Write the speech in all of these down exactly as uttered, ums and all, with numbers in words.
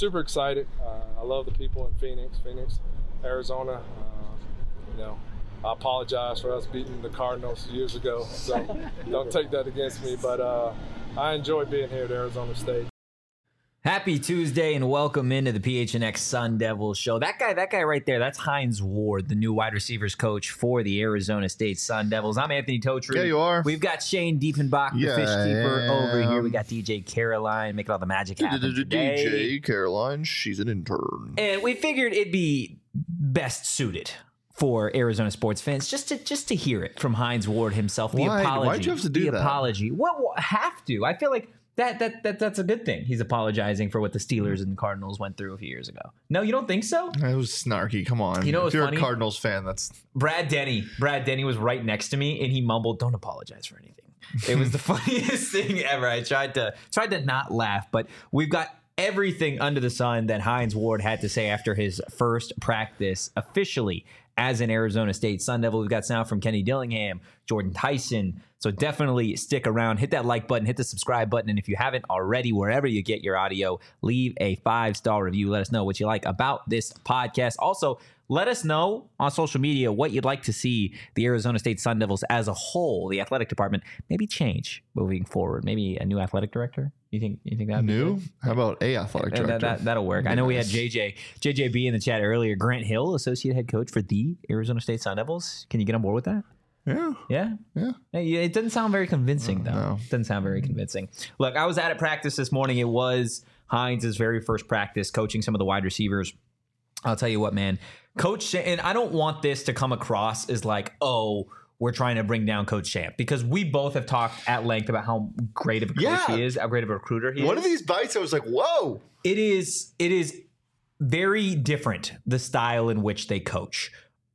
super excited. Uh, I love the people in Phoenix, Phoenix, Arizona. Uh, you know, I apologize for us beating the Cardinals years ago, so don't take that against me. But uh, I enjoy being here at Arizona State. Happy Tuesday and welcome into the P H N X Sun Devils show. That guy, that guy right there, that's Hines Ward, the new wide receivers coach for the Arizona State Sun Devils. I'm Anthony Totri. Yeah, you are. We've got Shane Diefenbach, the yeah, fish keeper, over here. We got D J Caroline making all the magic happen today. D J Caroline, she's an intern. And we figured it'd be best suited for Arizona sports fans just to just to hear it from Hines Ward himself. The Why? apology. Why'd you have to do the that? apology. What well, have to? I feel like That, that that that's a good thing. He's apologizing for what the Steelers and the Cardinals went through a few years ago. No, you don't think so? It was snarky. Come on. You know if what's you're funny? a Cardinals fan, that's Brad Denny. Brad Denny was right next to me, and he mumbled, "Don't apologize for anything." It was the funniest thing ever. I tried to tried to not laugh, but we've got everything under the sun that Hines Ward had to say after his first practice officially as an Arizona State Sun Devil. We've got sound from Kenny Dillingham, Jordan Tyson. So definitely stick around, hit that like button, hit the subscribe button. And if you haven't already, wherever you get your audio, leave a five-star review. Let us know what you like about this podcast. Also, let us know on social media what you'd like to see the Arizona State Sun Devils as a whole, the athletic department, maybe change moving forward. Maybe a new athletic director. You think you think that new? How about a athletic director? That, that, that'll work. I know we had J J J J B in the chat earlier. Grant Hill, associate head coach for the Arizona State Sun Devils. Can you get on board with that? Yeah. Yeah? Yeah. Hey, it doesn't sound very convincing, Oh, though. no. It doesn't sound very convincing. Look, I was at a practice this morning. It was Hines' very first practice coaching some of the wide receivers. I'll tell you what, man. Coach, and I don't want this to come across as like, oh, we're trying to bring down Coach Champ, because we both have talked at length about how great of a coach Yeah. he is, how great of a recruiter he One is. of these bites, I was like, whoa. It is it is very different, the style in which they coach.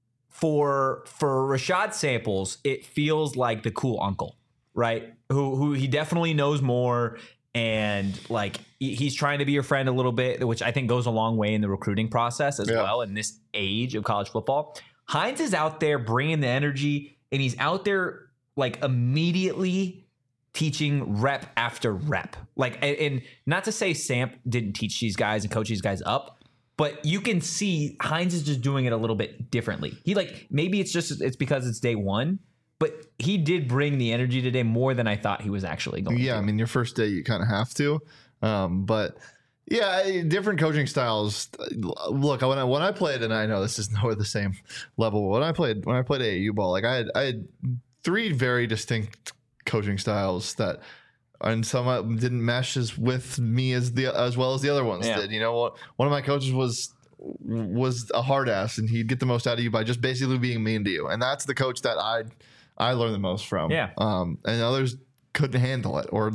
For for Rashad Samples, it feels like the cool uncle, right? Who who he definitely knows more, and like he- he's trying to be your friend a little bit, which I think goes a long way in the recruiting process as Yeah. well in this age of college football. Hines is out there bringing the energy, and he's out there like immediately teaching rep after rep. Like, and, and not to say Samp didn't teach these guys and coach these guys up, but you can see Hines is just doing it a little bit differently. He like, maybe it's just, it's because it's day one, but he did bring the energy today more than I thought he was actually going Yeah, to. I mean, your first day, you kind of have to. Um, but yeah, different coaching styles. Look, when I when I played, and I know this is nowhere the same level. When I played, when I played A A U ball, like I had, I had three very distinct coaching styles that, and some didn't mesh as with me as the as well as the other ones Yeah. did. You know, one of my coaches was was a hard ass, and he'd get the most out of you by just basically being mean to you, and that's the coach that I I learned the most from. Yeah. Um, and others couldn't handle it, or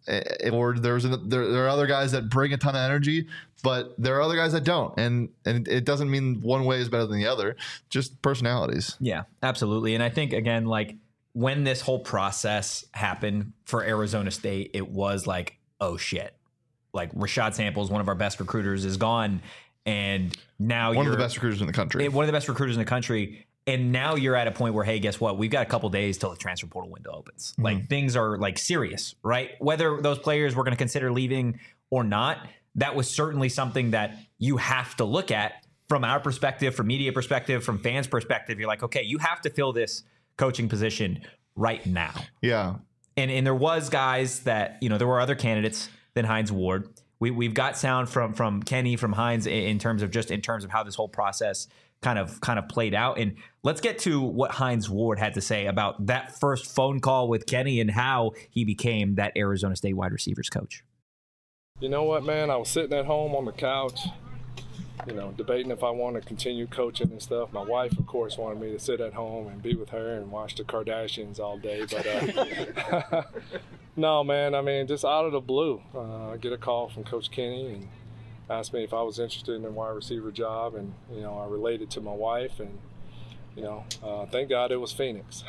or there's an, there, there are other guys that bring a ton of energy, but there are other guys that don't, and and it doesn't mean one way is better than the other, just personalities. Yeah, absolutely. And I think, again, like when this whole process happened for Arizona State, it was like, oh shit, like Rashad Samples, one of our best recruiters, is gone. And now One you're of the best recruiters in the country. one of the best recruiters in the country. And now you're at a point where, hey, guess what? We've got a couple days till the transfer portal window opens. Mm-hmm. Like things are like serious, right? Whether those players were going to consider leaving or not, that was certainly something that you have to look at from our perspective, from media perspective, from fans' perspective. You're like, okay, you have to fill this coaching position right now. yeah. And and there was guys that, you know, there were other candidates than Hines Ward. We we've got sound from from Kenny, from Hines in, in terms of just in terms of how this whole process kind of kind of played out. And let's get to what Hines Ward had to say about that first phone call with Kenny and how he became that Arizona State wide receivers coach. You know what, man? I was sitting at home on the couch, you know, debating if I want to continue coaching and stuff. My wife, of course, wanted me to sit at home and be with her and watch the Kardashians all day. But uh, no, man, I mean, just out of the blue, uh, I get a call from Coach Kenny and asked me if I was interested in a wide receiver job. And, you know, I related to my wife, and, you know, uh, thank God it was Phoenix.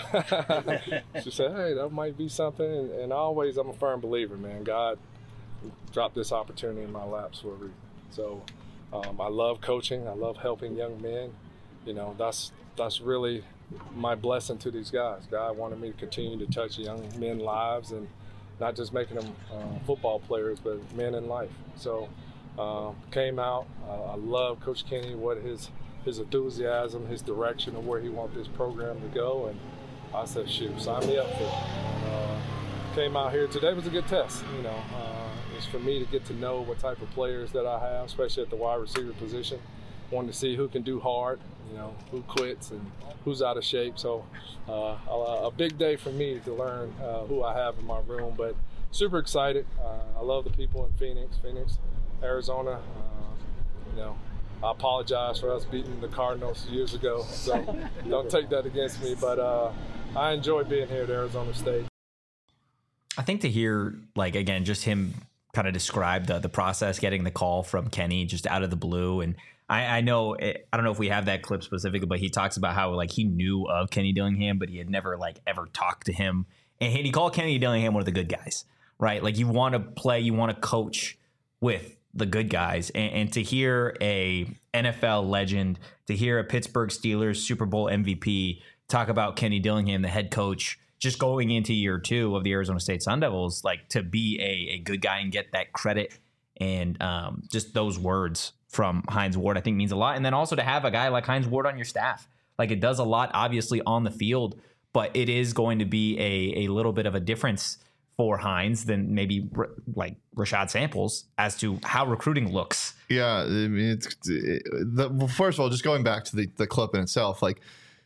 She said, hey, that might be something. And, and always, I'm a firm believer, man. God dropped this opportunity in my laps for a reason. So um, I love coaching. I love helping young men. You know, that's that's really my blessing to these guys. God wanted me to continue to touch young men's lives, and not just making them uh, football players, but men in life. So Um, came out. Uh, I love Coach Kenny, what his his enthusiasm, his direction of where he wants this program to go, and I said, shoot, sign me up for it. And, uh, came out here today was a good test. You know, uh, it's for me to get to know what type of players that I have, especially at the wide receiver position. Wanted to see who can do hard, you know, who quits and who's out of shape. So uh, a, a big day for me to learn uh, who I have in my room, but super excited. Uh, I love the people in Phoenix, Phoenix, Arizona. Uh, you know, I apologize for us beating the Cardinals years ago, so don't take that against me. But uh, I enjoy being here at Arizona State. I think to hear, like, again, just him kind of describe the the process, getting the call from Kenny just out of the blue. And I, I know, it, I don't know if we have that clip specifically, but he talks about how, like, he knew of Kenny Dillingham, but he had never, like, ever talked to him. And he called Kenny Dillingham one of the good guys, right? Like, you want to play, you want to coach with the good guys. And, and to hear a N F L legend, to hear a Pittsburgh Steelers Super Bowl M V P talk about Kenny Dillingham, the head coach, just going into year two of the Arizona State Sun Devils, like, to be a, a good guy and get that credit and um, just those words from Hines Ward, I think means a lot. And then also to have a guy like Hines Ward on your staff, like, it does a lot, obviously, on the field, but it is going to be a, a little bit of a difference for Hines than maybe like Rashad Samples as to how recruiting looks. Yeah, I mean, it's it, the, well, first of all, just going back to the, the clip in itself, like,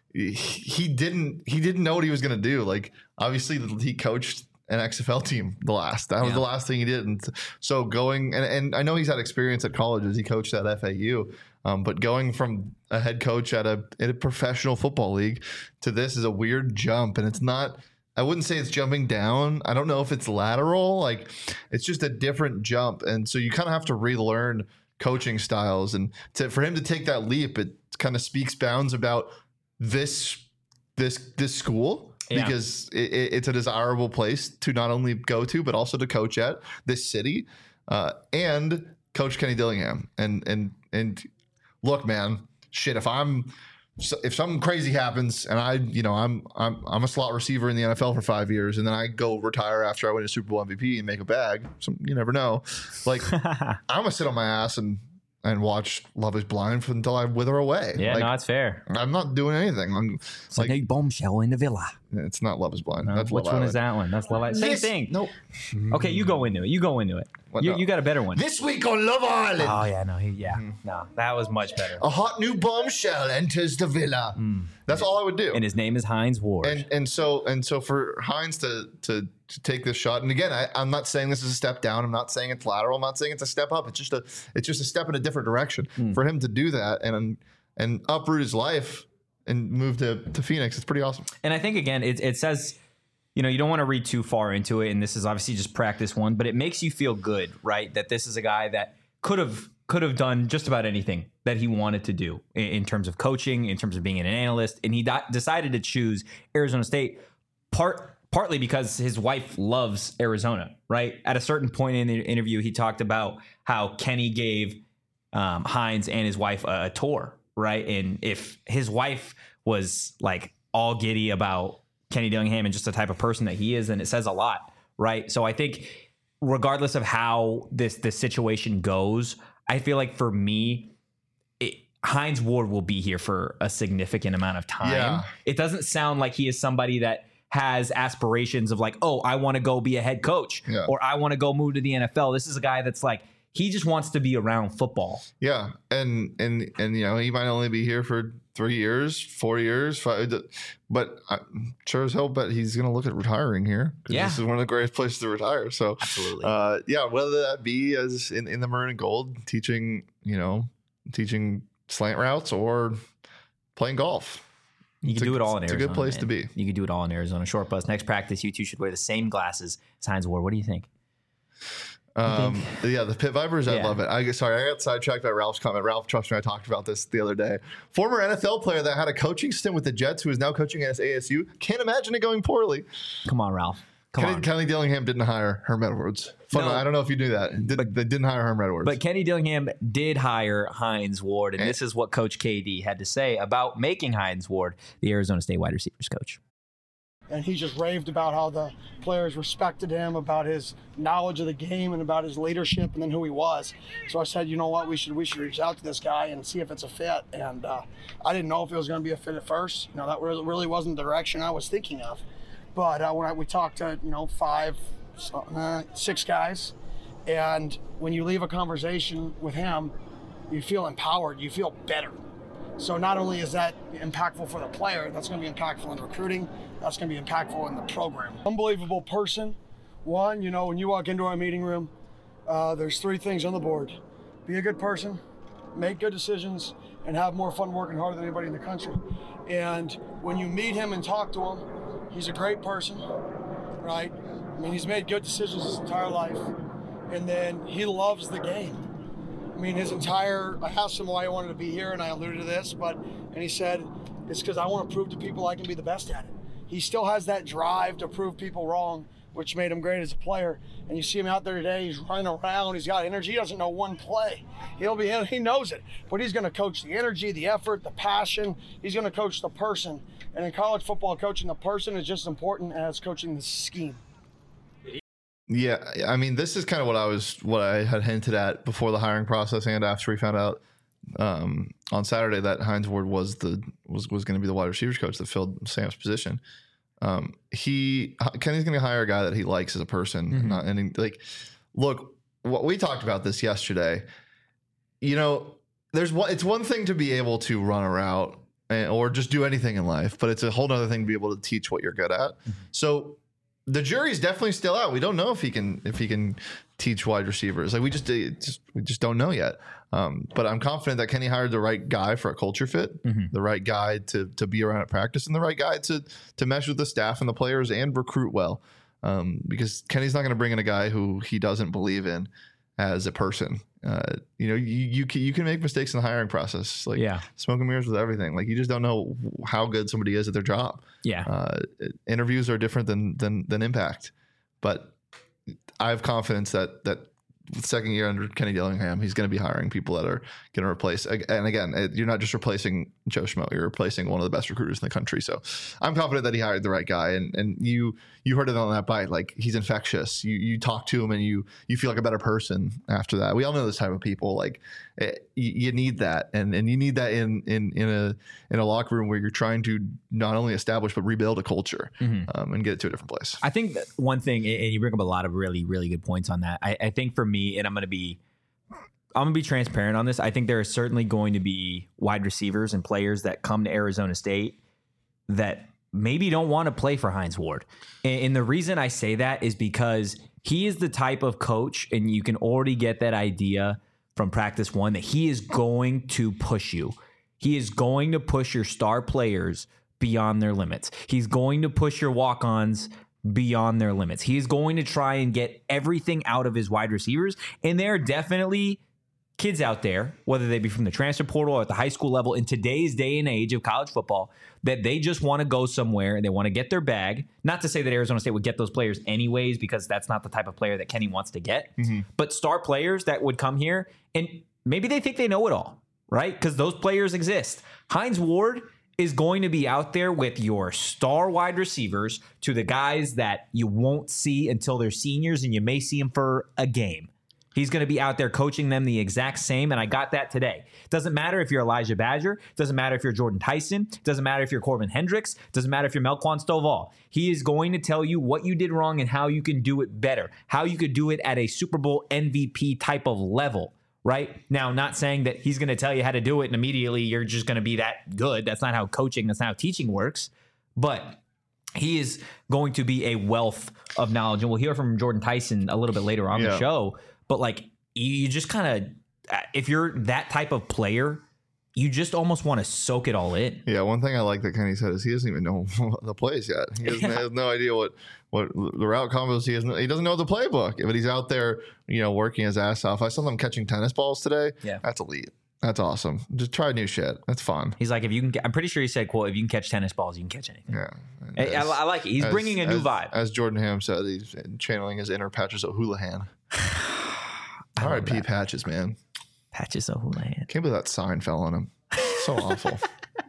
he didn't he didn't know what he was going to do. Like, obviously he coached an X F L team the last that was yeah. the last thing he did, and so going and, and I know he's had experience at colleges. He coached at F A U, um, but going from a head coach at a at a professional football league to this is a weird jump, and it's not. I wouldn't say it's jumping down. I don't know if it's lateral. Like, it's just a different jump, and so you kind of have to relearn coaching styles, and to, for him to take that leap, it kind of speaks bounds about this this this school yeah. because it, it, it's a desirable place to not only go to but also to coach at, this city, uh, and Coach Kenny Dillingham. And and and look, man, shit. If I'm if something crazy happens and I, you know, I'm I'm I'm a slot receiver in the N F L for five years and then I go retire after I win a Super Bowl M V P and make a bag, some, you never know. Like, I'm gonna sit on my ass and. and watch Love is Blind until I wither away. Yeah, like, no, that's fair. I'm not doing anything. I'm it's like, like a bombshell in the villa. It's not Love is Blind. No, that's which Love one Island. is that one? That's Love Island. Same this, thing. Nope. Okay, you go into it. You go into it. What, You, no. you got a better one. This week on Love Island. Oh, yeah, no, he, yeah. Mm. No, that was much better. A hot new bombshell enters the villa. Mm. That's all I would do. And his name is Hines Ward. And and so and so for Hines to to, to take this shot, and again, I, I'm not saying this is a step down. I'm not saying it's lateral. I'm not saying it's a step up. It's just a it's just a step in a different direction. Mm. For him to do that and and uproot his life and move to, to Phoenix, it's pretty awesome. And I think, again, it, it says, you know, you don't want to read too far into it, and this is obviously just practice one, but it makes you feel good, right? That this is a guy that could have could have done just about anything that he wanted to do in, in terms of coaching, in terms of being an analyst, and he di- decided to choose Arizona State part partly because his wife loves Arizona, right? At a certain point in the interview, he talked about how Kenny gave um, Hines and his wife a, a tour, right? And if his wife was like all giddy about Kenny Dillingham and just the type of person that he is, and it says a lot, right? So I think regardless of how this this situation goes, I feel like for me, it, Hines Ward will be here for a significant amount of time. Yeah. It doesn't sound like he is somebody that has aspirations of like, oh, I want to go be a head coach yeah. or I want to go move to the N F L. This is a guy that's like, he just wants to be around football. Yeah, and and and you know, he might only be here for three years, four years, five, but I'm sure as hell bet he's going to look at retiring here. Yeah, this is one of the greatest places to retire. So absolutely, uh, yeah. Whether that be as in, in the maroon and gold, teaching, you know, teaching slant routes or playing golf. You can it's do a, it all in it's Arizona. It's a good place man. to be. You can do it all in Arizona. Short bus. Next practice, you two should wear the same glasses as Hines Ward. What do you think? Um, yeah, the Pit Vipers, I Yeah. love it. I sorry, I got sidetracked by Ralph's comment. Ralph, trust me, I talked about this the other day. Former N F L player that had a coaching stint with the Jets, who is now coaching at A S U. Can't imagine it going poorly. Come on, Ralph. Come Kenny, on. Kenny Dillingham didn't hire Herm Edwards. Fun, No. I don't know if you knew that. Did, But- they didn't hire Herm Edwards. But Kenny Dillingham did hire Hines Ward, and And- this is what Coach K D had to say about making Hines Ward the Arizona State wide receivers coach. And he just raved about how the players respected him, about his knowledge of the game and about his leadership and then who he was. So I said, you know what, we should we should reach out to this guy and see if it's a fit. And uh, I didn't know if it was going to be a fit at first. You know, that really, really wasn't the direction I was thinking of. But uh, when I, we talked to, you know, five, uh, six guys, and when you leave a conversation with him, you feel empowered, you feel better. So not only is that impactful for the player, that's going to be impactful in recruiting, that's going to be impactful in the program. Unbelievable person. One, you know, when you walk into our meeting room, uh, there's three things on the board. Be a good person, make good decisions, and have more fun working harder than anybody in the country. And when you meet him and talk to him, he's a great person, right? I mean, he's made good decisions his entire life. And then he loves the game. I mean, his entire, I asked him why he wanted to be here, and I alluded to this, but, and he said, it's because I want to prove to people I can be the best at it. He still has that drive to prove people wrong, which made him great as a player. And you see him out there today, he's running around, he's got energy, he doesn't know one play. He'll be in, he knows it, but he's going to coach the energy, the effort, the passion. He's going to coach the person. And in college football, coaching the person is just as important as coaching the scheme. Yeah, I mean, this is kind of what I was, what I had hinted at before the hiring process, and after we found out um, on Saturday that Hines Ward was the was was going to be the wide receivers coach that filled Sam's position. Um, he Kenny's going to hire a guy that he likes as a person, mm-hmm. not and he, like, look, what we talked about this yesterday. You know, there's one. It's one thing to be able to run a route and, or just do anything in life, but it's a whole other thing to be able to teach what you're good at. Mm-hmm. So. The jury's definitely still out. We don't know if he can if he can teach wide receivers. Like we just, just we just don't know yet. Um, but I'm confident that Kenny hired the right guy for a culture fit, mm-hmm. the right guy to to be around at practice, and the right guy to to mesh with the staff and the players and recruit well. Um, because Kenny's not going to bring in a guy who he doesn't believe in as a person. Uh, you know, you you can, you can make mistakes in the hiring process. Like yeah. smoke and mirrors with everything. Like you just don't know how good somebody is at their job. Yeah. Uh, interviews are different than than than impact, but I have confidence that that second year under Kenny Dillingham, he's going to be hiring people that are going to replace. And again, you're not just replacing Joe Schmo, you're replacing one of the best recruiters in the country. So I'm confident that he hired the right guy. And and you you heard it on that bite, like he's infectious. You you talk to him and you you feel like a better person after that. We all know this type of people. Like it, you, you need that, and and you need that in in in a in a locker room where you're trying to not only establish but rebuild a culture mm-hmm. um, and get it to a different place. I think that one thing, and you bring up a lot of really really good points on that. I, I think for me, and I'm going to be. I'm going to be transparent on this. I think there is certainly going to be wide receivers and players that come to Arizona State that maybe don't want to play for Hines Ward. And, and the reason I say that is because he is the type of coach, and you can already get that idea from practice one, that he is going to push you. He is going to push your star players beyond their limits. He's going to push your walk-ons beyond their limits. He's going to try and get everything out of his wide receivers. And there are definitely kids out there, whether they be from the transfer portal or at the high school level in today's day and age of college football, that they just want to go somewhere and they want to get their bag. Not to say that Arizona State would get those players anyways, because that's not the type of player that Kenny wants to get. Mm-hmm. But star players that would come here and maybe they think they know it all, right? Because those players exist. Hines Ward is going to be out there with your star wide receivers to the guys that you won't see until they're seniors, and you may see them for a game. He's going to be out there coaching them the exact same, and I got that today. Doesn't matter if you're Elijah Badger. Doesn't matter if you're Jordan Tyson. Doesn't matter if you're Corbin Hendricks. Doesn't matter if you're Melquan Stovall. He is going to tell you what you did wrong and how you can do it better, how you could do it at a Super Bowl M V P type of level, right? Now, not saying that he's going to tell you how to do it and immediately you're just going to be that good. That's not how coaching, that's not how teaching works. But he is going to be a wealth of knowledge, and we'll hear from Jordan Tyson a little bit later on yeah. the show. But like, you just kind of, if you're that type of player, you just almost want to soak it all in. Yeah, one thing I like that Kenny said is he doesn't even know the plays yet. He, doesn't, yeah. he has no idea what, what the route combos. He has no, he doesn't know the playbook, but he's out there, you know, working his ass off. I saw him catching tennis balls today. Yeah, that's elite. That's awesome. Just try new shit. That's fun. He's like, if you can, I'm pretty sure he said, "quote If you can catch tennis balls, you can catch anything." Yeah, as, I, I like it. He's as, bringing a new as, vibe. As Jordan Ham said, he's channeling his inner Patches O'Houlihan. All right, P. Patches, man. Patches O'Houlihan. Can't believe that sign fell on him. So awful.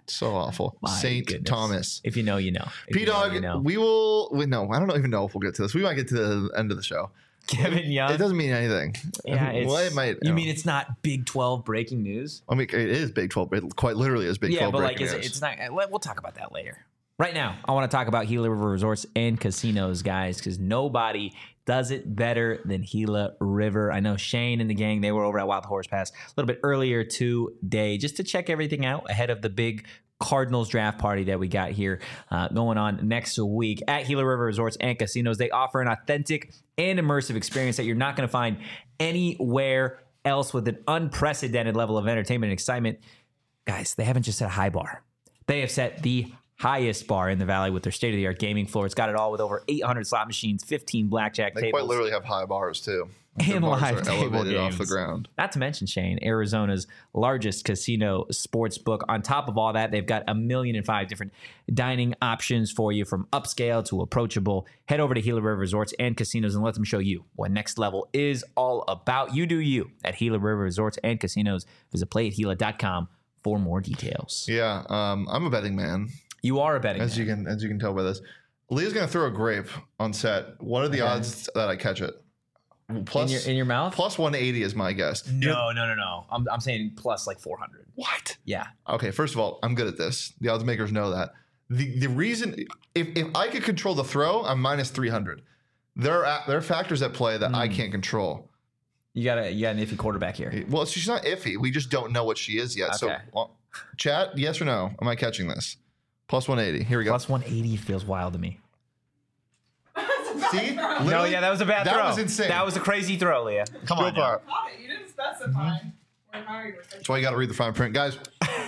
So awful. My Saint goodness. Thomas. If you know, you know. If P you know, Dog, you know. we will. Wait, no, I don't even know if we'll get to this. We might get to the end of the show. Kevin Young. It doesn't mean anything. Yeah, it's, well, it might. You know. mean it's not Big twelve breaking news? I mean, it is Big twelve. It quite literally is Big Yeah, twelve. but like, breaking is it, news. it's not. We'll talk about that later. Right now, I want to talk about Gila River Resorts and Casinos, guys, because nobody does it better than Gila River. I know Shane and the gang, they were over at Wild Horse Pass a little bit earlier today just to check everything out ahead of the big Cardinals draft party that we got here uh, going on next week at Gila River Resorts and Casinos. They offer an authentic and immersive experience that you're not going to find anywhere else with an unprecedented level of entertainment and excitement. Guys, they haven't just set a high bar. They have set the highest bar in the valley with their state-of-the-art gaming floor. It's got it all with over eight hundred slot machines, fifteen blackjack They tables. quite literally have high bars too. And Their bars live are table elevated off games. the ground. Not to mention, Shane, Arizona's largest casino sports book. On top of all that, they've got a million and five different dining options for you, from upscale to approachable. Head over to Gila River Resorts and Casinos and let them show you what next level is all about. You do you at Gila River Resorts and Casinos. Visit play at gila dot com for more details. Yeah, um, I'm a betting man, You are a betting as man. you can as you can tell by this. Leah's gonna throw a grape on set. What are the Okay. odds that I catch it? Plus, in your in your mouth? plus one eighty is my guess. No, no, no, no. I'm I'm saying plus like four hundred. What? Yeah. Okay, first of all, I'm good at this. The odds makers know that. The the reason if, if I could control the throw, I'm minus three hundred. There are there are factors at play that Hmm. I can't control. You got a you got an iffy quarterback here. Well, she's not iffy. We just don't know what she is yet. So, Okay. well, chat, yes or no? Am I catching this? Plus one eighty. Here we go. Plus one eighty feels wild to me. See? No, Literally, yeah, that was a bad that throw. was insane. That was a crazy throw, Leah. Come Go on. for Now. it. Got it. You didn't specify. Or how you were That's why you got to read the fine print, guys.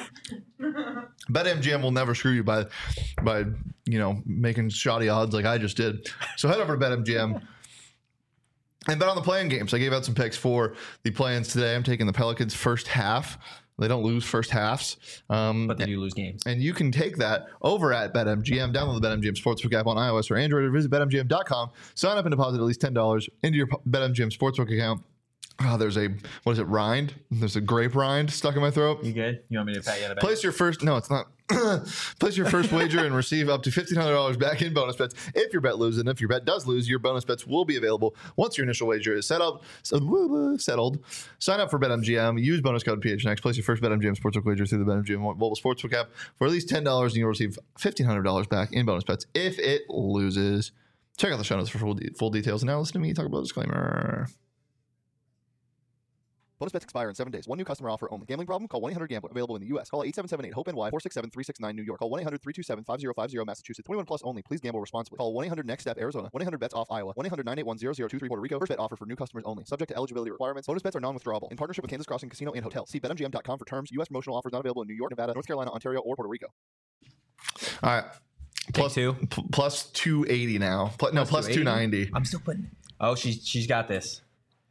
BetMGM will never screw you by, by you know making shoddy odds like I just did. So head over to BetMGM and bet on the playing games. I gave out some picks for the play-ins today. I'm taking the Pelicans first half. They don't lose first halves. Um, But they do lose games. And you can take that over at BetMGM. Download the BetMGM Sportsbook app on iOS or Android, or visit Bet M G M dot com. Sign up and deposit at least ten dollars into your BetMGM Sportsbook account. Oh, there's a, what is it, rind? There's a grape rind stuck in my throat. You good? You want me to pat you on the back? Place your first, no, it's not. Place your first wager and receive up to fifteen hundred dollars back in bonus bets if your bet loses. And if your bet does lose, your bonus bets will be available once your initial wager is set up, settled. Sign up for BetMGM. Use bonus code P H N X. Place your first BetMGM Sportsbook wager through the BetMGM mobile sportsbook app for at least ten dollars, and you'll receive fifteen hundred dollars back in bonus bets if it loses. Check out the show notes for full, de- full details. And now listen to me talk about a disclaimer. Bonus bets expire in seven days. One new customer offer only. Gambling problem? Call one eight hundred gambler. Available in the U S. Call eight seven seven eight hope N Y four six seven three six nine New York. Call one eight hundred three two seven five zero five zero Massachusetts. twenty-one plus only. Please gamble responsibly. Call one eight hundred next step Arizona. one eight hundred bets off Iowa. one eight hundred nine eight one zero zero two three Puerto Rico. First bet offer for new customers only. Subject to eligibility requirements. Bonus bets are non-withdrawable. In partnership with Kansas Crossing Casino and Hotel. See Bet M G M dot com for terms. U S promotional offers not available in New York, Nevada, North Carolina, Ontario, or Puerto Rico. All right. Plus two. P- plus two eighty now. Pl- no, plus two ninety. I'm still putting. Oh, she's she's got this.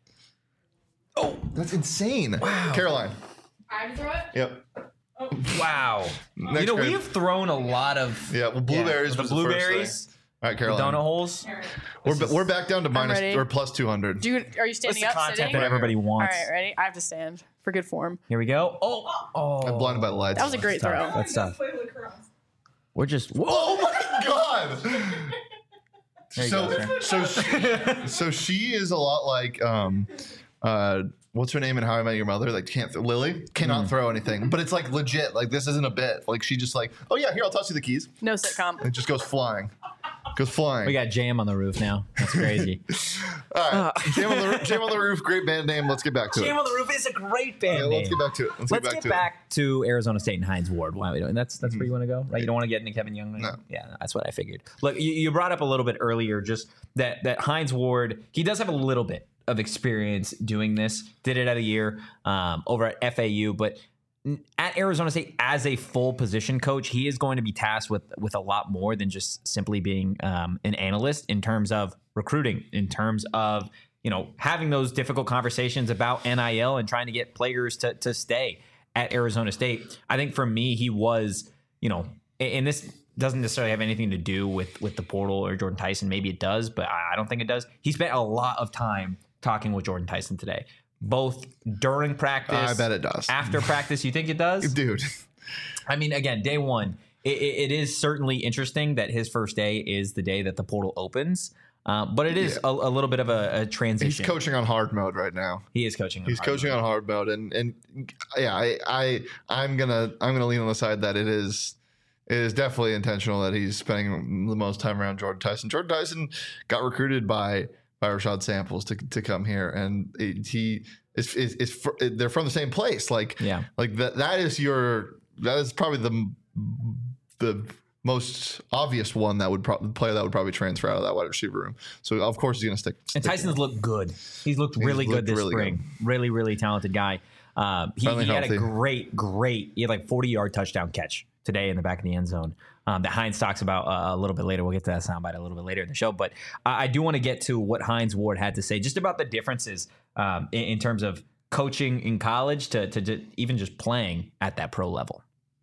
Oh, that's insane. Wow. Caroline. I have to throw it? Yep. Wow. Next you know, grade. we have thrown a lot of Yeah, well, blueberries the was the first blueberries, thing. All right, the Caroline. donut holes. All right. We're, This is- we're back down to minus ready. or plus two hundred. Do you, are you What's standing the up, content sitting? that everybody All wants? right, ready? I have to stand for good form. Here we go. Oh, oh. I'm blinded by the lights. That was a great That's throw. tough. That's tough. Play lacrosse. We're just. Whoa. Oh my god! There you so, go, so, she, so she is a lot like um, uh, what's her name in How I Met Your Mother? Like can't th- Lily cannot Mm. throw anything, but it's like legit. Like this isn't a bit. Like she just like, oh yeah, here I'll toss you the keys. No sitcom. It just goes flying, goes flying. We got Jam on the roof now. That's crazy. All right, Jam on the Roof- Jam on the Roof. Great band name. Let's get back to Jam it. on the Roof is a great band Yeah, name. let's get back to it. Let's, Let's get back get to back to Arizona State and Hines Ward. Why are we doing? That's that's where you want to go, right? You don't want to get into Kevin Young. Right? No. Yeah, that's what I figured. Look, you, you brought up a little bit earlier, just that that Hines Ward. He does have a little bit of experience doing this. Did it at a year um, over at F A U, but at Arizona State as a full position coach, he is going to be tasked with with a lot more than just simply being um, an analyst in terms of recruiting, in terms of you know having those difficult conversations about N I L and trying to get players to to stay at Arizona State. I think for me, he was you know, and this doesn't necessarily have anything to do with with the portal or Jordan Tyson. Maybe it does, but I don't think it does. He spent a lot of time talking with Jordan Tyson today, both during practice. I bet it does. After practice, you think it does? Dude, I mean, again, day one, it, it is certainly interesting that his first day is the day that the portal opens. Uh, but it is yeah. a, a little bit of a, a transition. He's coaching on hard mode right now. He is coaching. On He's hard coaching mode. on hard mode, and and yeah, I, I I'm gonna I'm gonna lean on the side that it is it is definitely intentional that he's spending the most time around Jordan Tyson. Jordan Tyson got recruited by by Rashad Samples to to come here, and it, he is is, is for, they're from the same place. Like yeah, like that that is your that is probably the the most obvious one that would probably player that would probably transfer out of that wide receiver room. So of course he's going to stick. And Tyson's looked good. He's looked really he's good looked this really spring. Good. Really, really talented guy. Uh, he he had a great, great. He had like forty yard touchdown catch today in the back of the end zone. Um, that Hines talks about uh, a little bit later. We'll get to that soundbite a little bit later in the show. But I, I do want to get to what Hines Ward had to say just about the differences um, in, in terms of coaching in college to to just, even just playing at that pro level.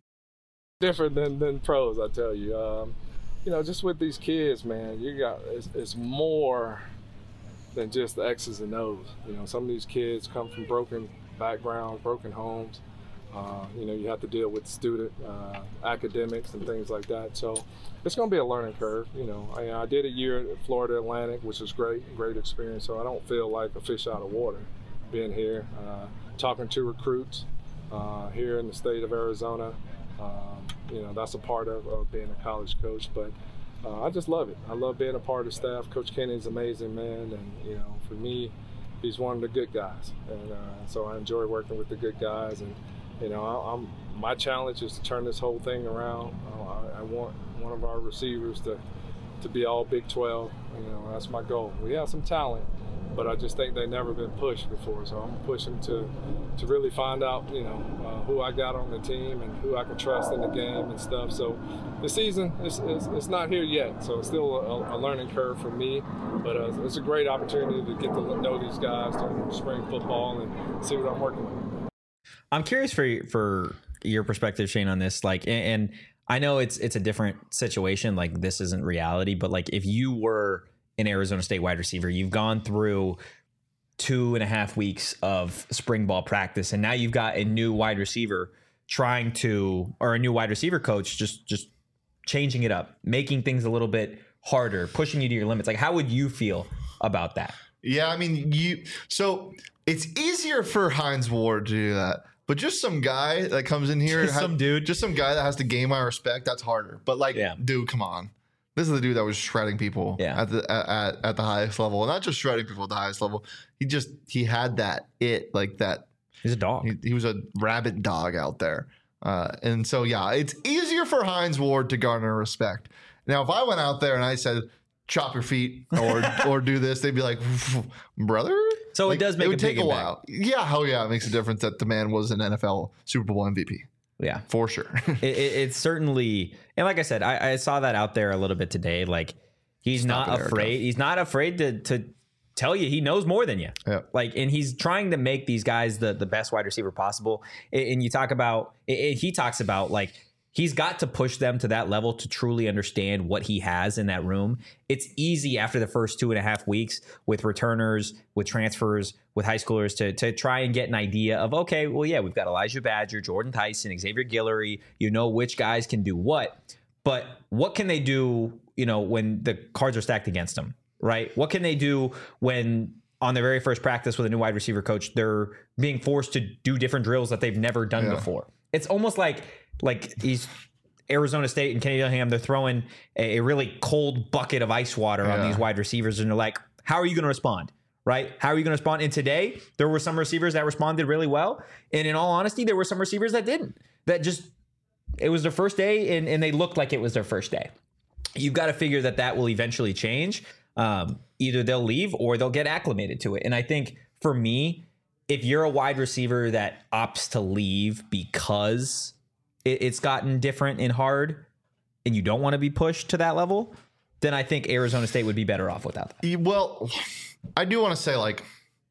Different than, than pros, I tell you. Um, you know, just with these kids, man, you got it's, it's more than just the X's and O's. You know, some of these kids come from broken backgrounds, broken homes. Uh, you know, you have to deal with student uh, academics and things like that. So it's going to be a learning curve. You know, I, I did a year at Florida Atlantic, which was great, great experience. So I don't feel like a fish out of water being here, uh, talking to recruits uh, here in the state of Arizona. Um, you know, that's a part of, of being a college coach, but uh, I just love it. I love being a part of the staff. Coach Kenny's an amazing man, and, you know, for me, he's one of the good guys. And uh, so I enjoy working with the good guys. And, you know, I, I'm my challenge is to turn this whole thing around. Uh, I, I want one of our receivers to, to be all Big twelve. You know, that's my goal. We have some talent, but I just think they've never been pushed before. So I'm pushing to to really find out, you know, uh, who I got on the team and who I can trust in the game and stuff. So the season is, is, is not here yet. So it's still a, a learning curve for me. But uh, it's a great opportunity to get to know these guys during spring football and see what I'm working with. I'm curious for for your perspective, Shane, on this. Like, and, and I know it's it's a different situation. Like, this isn't reality, but like if you were an Arizona State wide receiver, you've gone through two and a half weeks of spring ball practice, and now you've got a new wide receiver trying to, or a new wide receiver coach just just changing it up, making things a little bit harder, pushing you to your limits. Like, how would you feel about that? Yeah, I mean, you. So it's easier for Hines Ward to do that, but just some guy that comes in here, just has, some dude, just some guy that has to gain my respect. That's harder. But like, yeah. dude, come on. This is the dude that was shredding people yeah. at the at, at the highest level, and not just shredding people at the highest level. He just he had that it like that. He's a dog. He, he was a rabid dog out there, uh, and so yeah, it's easier for Hines Ward to garner respect. Now, if I went out there and I said, "Chop your feet" or or do this, they'd be like, "Brother." So like, it does make it would a take a while. Yeah, hell yeah, it makes a difference that the man was an N F L Super Bowl M V P. Yeah, for sure. it, it, it's certainly, and like I said, I, I saw that out there a little bit today. Like, he's Stop not afraid. Erica. He's not afraid to to tell you he knows more than you. Yeah. Like, and he's trying to make these guys the the best wide receiver possible. And, and you talk about, it, he talks about like he's got to push them to that level to truly understand what he has in that room. It's easy after the first two and a half weeks with returners, with transfers, with high schoolers to, to try and get an idea of, okay, well, yeah, we've got Elijah Badger, Jordan Tyson, Xavier Guillory. You know which guys can do what. But what can they do, you know, when the cards are stacked against them, right? What can they do when on their very first practice with a new wide receiver coach, they're being forced to do different drills that they've never done yeah. before? It's almost like like he's Arizona State and Kenny Dillingham, they're throwing a, a really cold bucket of ice water yeah. on these wide receivers, and they're like, how are you going to respond? Right? How are you going to respond? And today, there were some receivers that responded really well. And in all honesty, there were some receivers that didn't. That just, it was their first day, and, and they looked like it was their first day. You've got to figure that that will eventually change. Um, either they'll leave or they'll get acclimated to it. And I think for me, if you're a wide receiver that opts to leave because it, it's gotten different and hard and you don't want to be pushed to that level, then I think Arizona State would be better off without that. Well, I do want to say, like,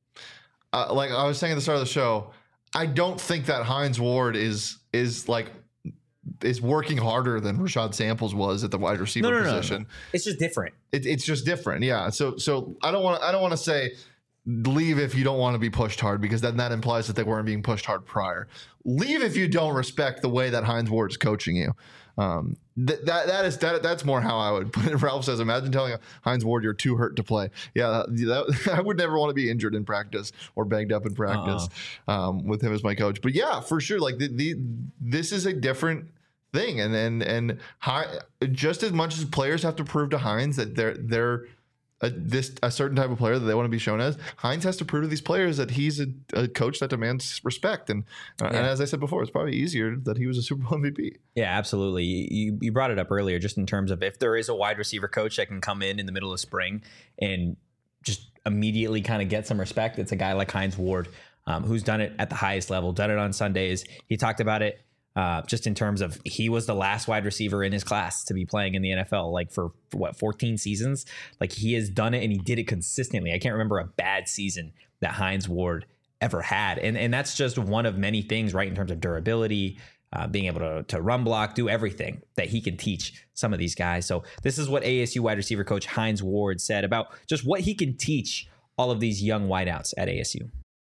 uh, like I was saying at the start of the show, I don't think that Hines Ward is is like is working harder than Rashad Samples was at the wide receiver no, no, position. No, no. It's just different. It, it's just different, yeah. So so I don't want I don't want to say leave if you don't want to be pushed hard, because then that implies that they weren't being pushed hard prior. Leave if you don't respect the way that Hines Ward is coaching you. Um, th- that that is that that's more how I would put it. Ralph says, imagine telling Hines Ward you're too hurt to play. Yeah, that, that, I would never want to be injured in practice or banged up in practice uh-uh. um, with him as my coach. But yeah, for sure, like the, the this is a different thing, and and and high, just as much as players have to prove to Hines that they're they're A, this a certain type of player that they want to be shown as, Hines has to prove to these players that he's a, a coach that demands respect. And uh, yeah. and as I said before, it's probably easier that he was a Super Bowl M V P. Yeah, absolutely. You you brought it up earlier, just in terms of if there is a wide receiver coach that can come in in the middle of spring and just immediately kind of get some respect, it's a guy like Hines Ward, um, who's done it at the highest level, done it on Sundays. He talked about it. Uh, just in terms of he was the last wide receiver in his class to be playing in the N F L, like for, for what, fourteen seasons. Like he has done it and he did it consistently. I can't remember a bad season that Hines Ward ever had. And and that's just one of many things, right? In terms of durability, uh, being able to, to run block, do everything that he can teach some of these guys. So this is what A S U wide receiver coach Hines Ward said about just what he can teach all of these young wideouts at A S U.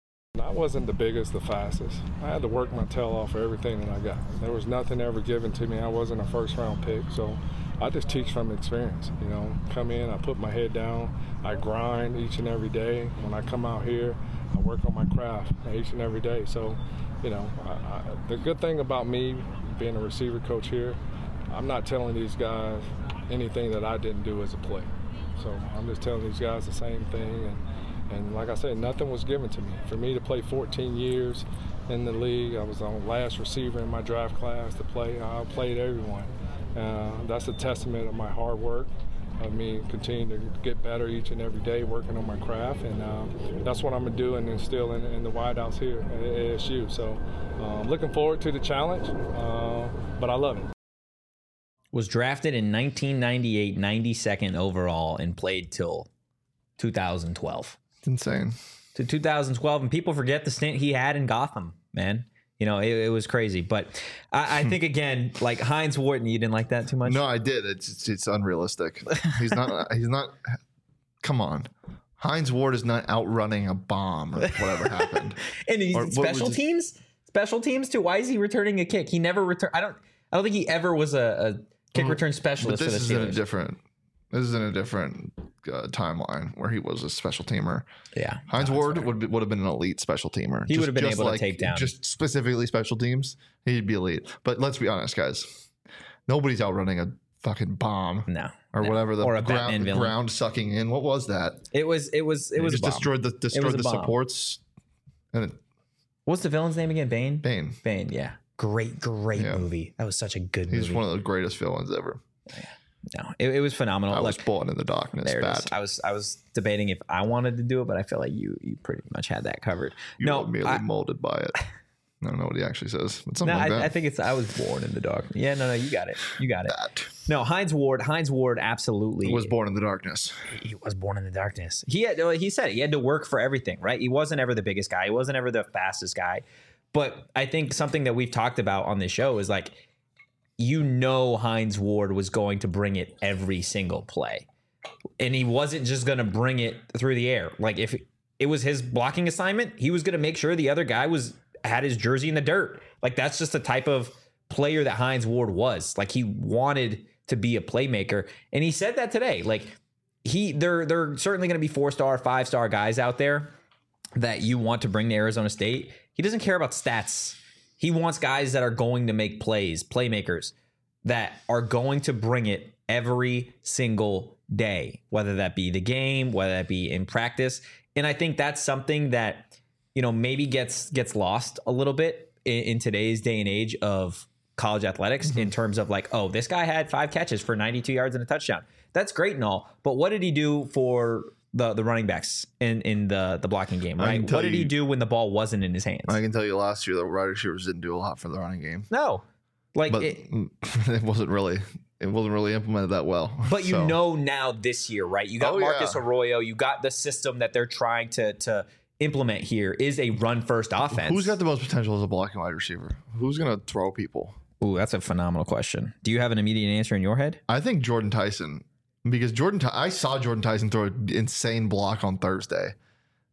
I wasn't the biggest, the fastest. I had to work my tail off for everything that I got. There was nothing ever given to me. I wasn't a first round pick, so I just teach from experience. You know, come in, I put my head down, I grind each and every day. When I come out here, I work on my craft each and every day. So, you know, I, I, the good thing about me being a receiver coach here, I'm not telling these guys anything that I didn't do as a player. So I'm just telling these guys the same thing. And, And like I said, nothing was given to me. For me to play fourteen years in the league, I was the last receiver in my draft class to play. I played everyone. Uh, that's a testament of my hard work, of me continuing to get better each and every day, working on my craft. And uh, that's what I'm going to do and instill in, in the wideouts here at A S U. So uh, looking forward to the challenge, uh, but I love it. Was drafted in nineteen ninety-eight, ninety-second overall, and played till two thousand twelve. Insane. To two thousand twelve, and people forget the stint he had in Gotham, man. You know, it, it was crazy. But I, I think, again, like Hines Ward, you didn't like that too much? No, I did. It's it's, it's unrealistic. He's not. He's not. Come on. Hines Ward is not outrunning a bomb or whatever happened. And he's Or, special his, teams? Special teams, too? Why is he returning a kick? He never returned. I don't I don't think he ever was a, a kick return specialist but this for the is in Steelers. a different. This is in a different uh, timeline where he was a special temer. Yeah. Hines no, Ward would be, would have been an elite special teamer. He Just- would have been just able like- to take down. just specifically special teams. He'd be elite. But let's be honest, guys. Nobody's outrunning a fucking bomb No. or no. whatever the Or a Batman ground, villain. ground sucking in. What was that? It was, it was, it It was just a bomb. destroyed the destroyed a the bomb. supports. And it, What's the villain's name again? Bane? Bane. Bane, yeah. Great, great Yeah. movie. That was such a good He's movie. one of the greatest villains ever. No, it, it was phenomenal. I was Look, born in the darkness. there it Bad. is. I was I was debating if I wanted to do it, but I feel like you you pretty much had that covered. You no, were merely I, molded by it. I don't know what he actually says, but no, something like I, that. I think it's I was born in the dark. Yeah, no, no, you got it. You got it. that No, Hines Ward. Hines Ward absolutely was born in the darkness. He was born in the darkness. He had he said it, he had to work for everything, right? He wasn't ever the biggest guy. He wasn't ever the fastest guy. But I think something that we've talked about on this show is like, you know, Hines Ward was going to bring it every single play. And he wasn't just going to bring it through the air. Like if it was his blocking assignment, he was going to make sure the other guy was had his jersey in the dirt. Like that's just the type of player that Hines Ward was. Like he wanted to be a playmaker. And he said that today. Like he there there are certainly going to be four-star, five-star guys out there that you want to bring to Arizona State. He doesn't care about stats. He wants guys that are going to make plays, playmakers that are going to bring it every single day, whether that be the game, whether that be in practice. And I think that's something that, you know, maybe gets gets lost a little bit in, in today's day and age of college athletics mm-hmm. in terms of like, oh, this guy had five catches for ninety-two yards and a touchdown. That's great and all, but what did he do for the the running backs in, in the, the blocking game, right? What did you, he do when the ball wasn't in his hands? I can tell you last year the wide receivers didn't do a lot for the running game. No. Like But it, it wasn't really it wasn't really implemented that well. But you So, know now this year, right? You got Oh, Marcus yeah. Arroyo, you got the system that they're trying to to implement here is a run first offense. who's got the most potential as a blocking wide receiver? Who's going to throw people? Ooh, that's a phenomenal question. Do you have an immediate answer in your head? I think Jordan Tyson, because Jordan, Ty- I saw Jordan Tyson throw an insane block on Thursday,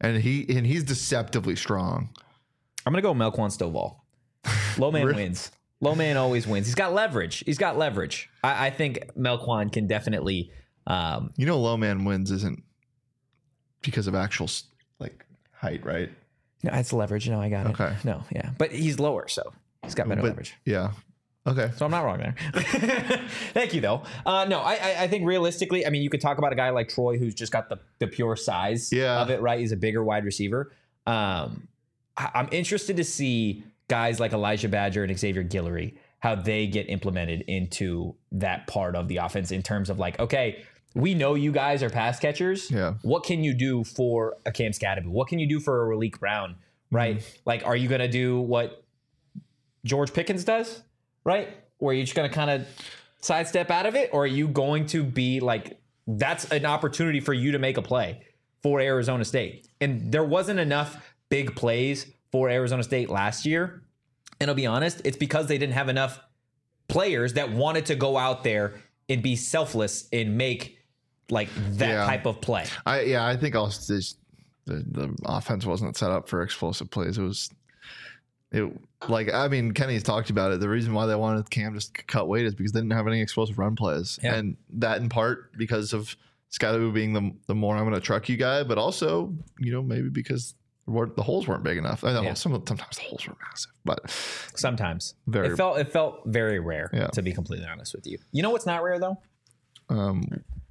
and he and he's deceptively strong. I'm gonna go Melquan Stovall. Low man Really? wins. Low man always wins. He's got leverage. He's got leverage. I, I think Melquan can definitely. Um, You know, low man wins isn't because of actual like height, right? no, it's leverage. No, I got it. Okay. No, yeah, but he's lower, so he's got better But- leverage. Yeah. Okay. So I'm not wrong there. Thank you, though. Uh, no, I, I, I think realistically, I mean, you could talk about a guy like Troy who's just got the, the pure size Yeah. of it, right? He's a bigger wide receiver. Um, I, I'm interested to see guys like Elijah Badger and Xavier Guillory, how they get implemented into that part of the offense in terms of like, okay, we know you guys are pass catchers. Yeah. What can you do for a Cam Scadaboo? What can you do for a Raleek Brown, right? Mm-hmm. Like, are you going to do what George Pickens does? Right? Or are you just going to kind of sidestep out of it? Or are you going to be like, that's an opportunity for you to make a play for Arizona State? And there wasn't enough big plays for Arizona State last year. And I'll be honest, it's because they didn't have enough players that wanted to go out there and be selfless and make like that Yeah. type of play. I yeah, I think also this, the the offense wasn't set up for explosive plays. It was it like I mean Kenny's talked about it. The reason why they wanted Cam just to cut weight is because they didn't have any explosive run plays, Yeah. and that in part because of Scadaboo being the the more I'm going to truck you guy, but also you know maybe because the holes weren't big enough. I know Yeah. some sometimes the holes were massive, but Sometimes. Very- it felt it felt very rare, Yeah. to be completely honest with you. You know what's not rare though? um,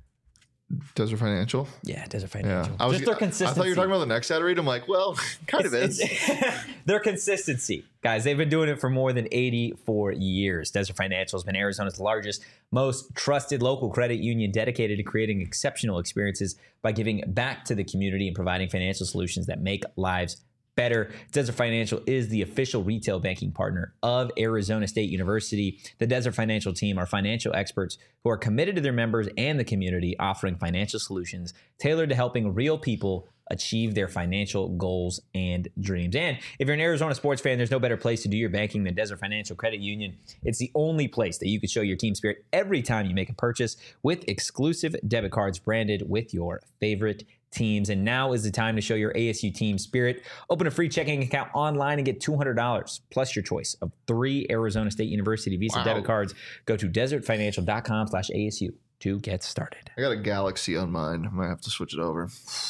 Desert Financial. Yeah, Desert Yeah, Financial. I was. Just their I consistency. thought you were talking about the next ad read. I'm like, well, kind of is. It's- their consistency, guys. They've been doing it for more than eighty-four years. Desert Financial has been Arizona's largest, most trusted local credit union, dedicated to creating exceptional experiences by giving back to the community and providing financial solutions that make lives better. Desert Financial is the official retail banking partner of Arizona State University. The Desert Financial team are financial experts who are committed to their members and the community, offering financial solutions tailored to helping real people achieve their financial goals and dreams. And if you're an Arizona sports fan, there's no better place to do your banking than Desert Financial Credit Union. It's the only place that you can show your team spirit every time you make a purchase with exclusive debit cards branded with your favorite teams. And now is the time to show your A S U team spirit. Open a free checking account online and get two hundred dollars plus your choice of three Arizona State University Visa Wow. debit cards. Go to desertfinancial.com slash ASU to get started. I got a Galaxy on mine. I might have to switch it over.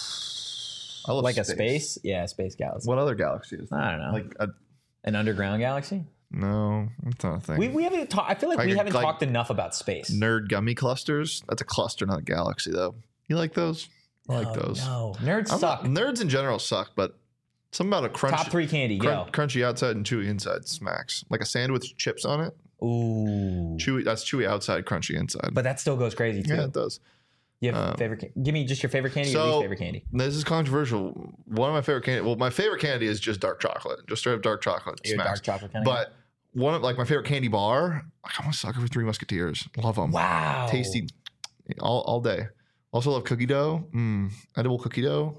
I love Like a space? Yeah, Space Galaxy. What other galaxy is? I don't know. Like a, An underground galaxy? no, that's not a thing. We, we haven't talked. I feel like, Like we a- haven't like talked enough about space. Nerd gummy clusters. That's a cluster, not a galaxy, though. You like those? I like Oh, those. No, nerds I'm suck. not- nerds in general suck, but something about a crunch, Top three candy, crun- go. crunchy outside and chewy inside smacks. Like a sandwich with chips on it. Ooh, Chewy. That's chewy outside, crunchy inside. but that still goes crazy too. yeah, it does. You have um, favorite? Ca- Give me just your favorite candy. or So least favorite candy. this is controversial. One of my favorite candy. Well, my favorite candy is just dark chocolate. Just straight up dark chocolate. You're a smacks. dark chocolate kind of. But one of like my favorite candy bar. Like, I'm a sucker for Three Musketeers. Love them. wow, Tasty, all all day. Also love cookie dough. Mm, edible cookie dough.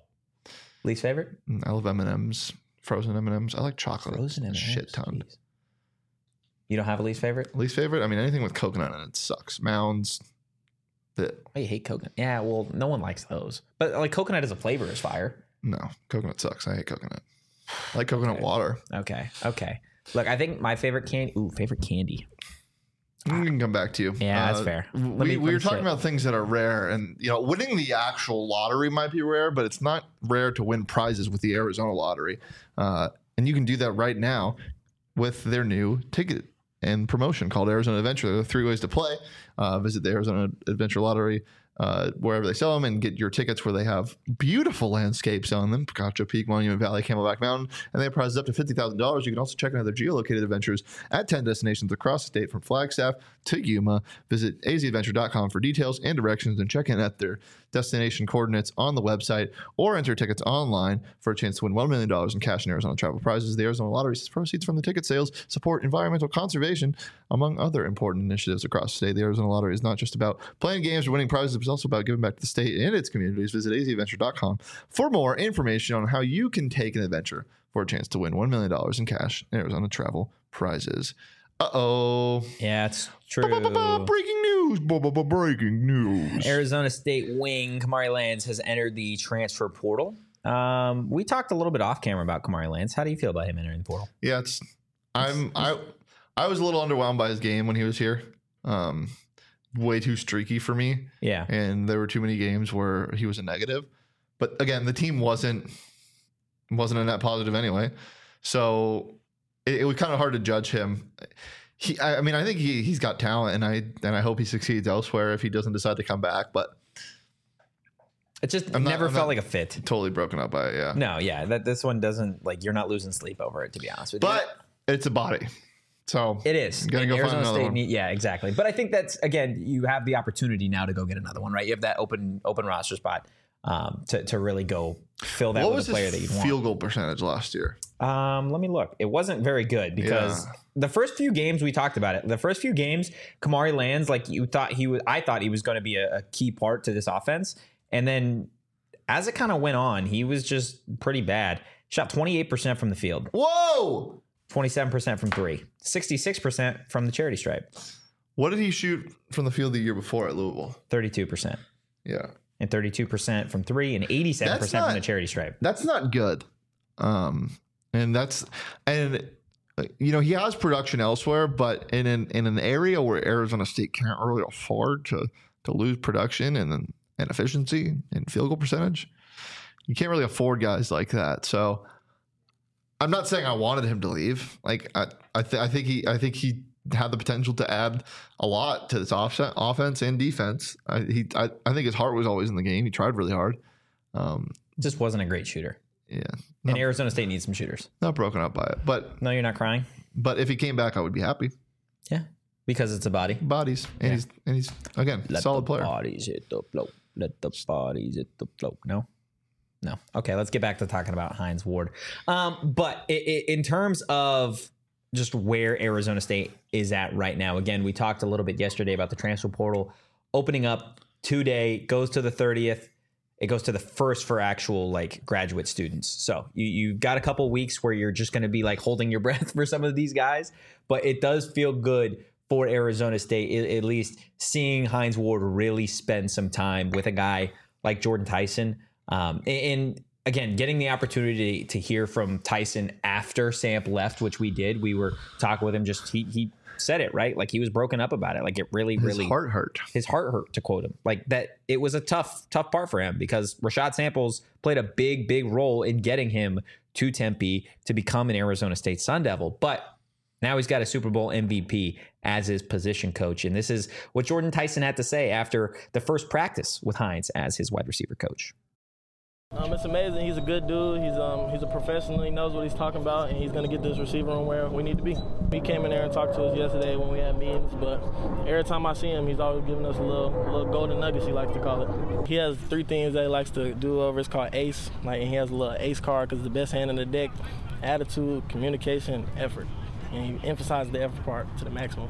Least favorite? Mm, I love M and M's. Frozen M and M's. I like chocolate. Frozen a M and M's. shit ton. Jeez. You don't have a least favorite? Least favorite. I mean, anything with coconut in it sucks. Mounds. The, Oh, you hate coconut? Yeah, well, no one likes those. But like coconut as a flavor is fire. no, coconut sucks. I hate coconut. I like coconut Okay. water. Okay, okay. Look, I think my favorite candy. Ooh, favorite candy. We can come back to you. Yeah, that's fair. Let We, me- let we me were talking sit. about things that are rare, and you know, winning the actual lottery might be rare, but it's not rare to win prizes with the Arizona Lottery. Uh, and you can do that right now with their new ticket and promotion called Arizona Adventure. There are three ways to play. Uh, visit the Arizona Adventure Lottery uh, wherever they sell them and get your tickets where they have beautiful landscapes on them. Picacho Peak, Monument Valley, Camelback Mountain, and they have prizes up to fifty thousand dollars. You can also check out their geolocated adventures at ten destinations across the state from Flagstaff to Yuma. Visit a z adventure dot com for details and directions and check in at their destination coordinates on the website or enter tickets online for a chance to win one million dollars in cash and Arizona travel prizes. The Arizona Lottery says proceeds from the ticket sales support environmental conservation, among other important initiatives across the state. The Arizona Lottery is not just about playing games or winning prizes, it's also about giving back to the state and its communities. Visit a z adventure dot com for more information on how you can take an adventure for a chance to win one million dollars in cash and Arizona travel prizes. Uh-oh. Yeah, it's Ba-ba-ba-ba, true. breaking news. Ba-ba-ba, breaking news. Arizona State wing Kamari Lands has entered the transfer portal. Um, we talked a little bit off camera about Kamari Lance. How do you feel about him entering the portal? Yeah, it's I'm I I was a little underwhelmed by his game when he was here. Um, way too streaky for me. Yeah. And there were too many games where he was a negative. But again, the team wasn't wasn't a net positive anyway. So it, it was kind of hard to judge him. He I, I mean, I think he he's got talent, and I and I hope he succeeds elsewhere if he doesn't decide to come back. But it just I'm not- never I'm felt not like a fit. totally broken up by it, yeah. No, yeah. That this one doesn't like you're not losing sleep over it, to be honest with you. But it's a body. So It is. You gotta And go find Arizona another State one. need- yeah, exactly. But I think that's again, you have the opportunity now to go get another one, right? You have that open open roster spot um, to to really go fill that what with was a player his that you want. field goal percentage last year? Um, let me look. It wasn't very good because Yeah. the first few games we talked about it. The first few games, Kamari Lands, like you thought he was. I thought he was going to be a, a key part to this offense, and then as it kind of went on, he was just pretty bad. Shot twenty-eight percent from the field, Whoa! twenty-seven percent from three, sixty-six percent from the charity stripe, What did he shoot from the field the year before at Louisville? thirty-two percent, Yeah. and thirty-two percent from three, and eighty-seven percent That's from not- the charity stripe. That's not good. Um, and that's and uh, you know, he has production elsewhere, but in an in an area where Arizona State can't really afford to to lose production and then and efficiency and field goal percentage, you can't really afford guys like that. So I'm not saying I wanted him to leave. Like I I, th- I think he I think he had the potential to add a lot to this offset, offense and defense. I, he I, I think his heart was always in the game. He tried really hard. Um, Just wasn't a great shooter. yeah, And not, Arizona State needs some shooters. not broken up by it, but No, you're not crying. but if he came back, I would be happy. Yeah, because it's a body. Bodies and Yeah. he's and he's again Let solid the player. bodies hit the float. Let the bodies hit the float. No, no. Okay, let's get back to talking about Hines Ward. Um, but i i in terms of just where Arizona State is at right now, again, we talked a little bit yesterday about the transfer portal opening up today. Goes to the thirtieth. It goes to the first for actual like graduate students. So you you've got a couple weeks where you're just going to be like holding your breath for some of these guys, but it does feel good for Arizona State, at least seeing Hines Ward really spend some time with a guy like Jordan Tyson. Um, and again, getting the opportunity to hear from Tyson after Samp left, which we did. We were talking with him, just he he said it, right? Like he was broken up about it. Like it really, His really heart hurt. his heart hurt, to quote him. Like that it was a tough, tough part for him because Rashad Samples played a big, big role in getting him to Tempe to become an Arizona State Sun Devil. But now he's got a Super Bowl M V P as his position coach. And this is what Jordan Tyson had to say after the first practice with Hines as his wide receiver coach. Um, it's amazing. He's a good dude. He's um he's a professional. He knows what he's talking about, and he's going to get this receiver room where we need to be. He came in there and talked to us yesterday when we had meetings, but every time I see him, he's always giving us a little little golden nuggets, he likes to call it. He has three things that he likes to do over. It's called ACE. Like, and he has a little ACE card because it's the best hand in the deck: attitude, communication, effort. And he emphasizes the effort part to the maximum.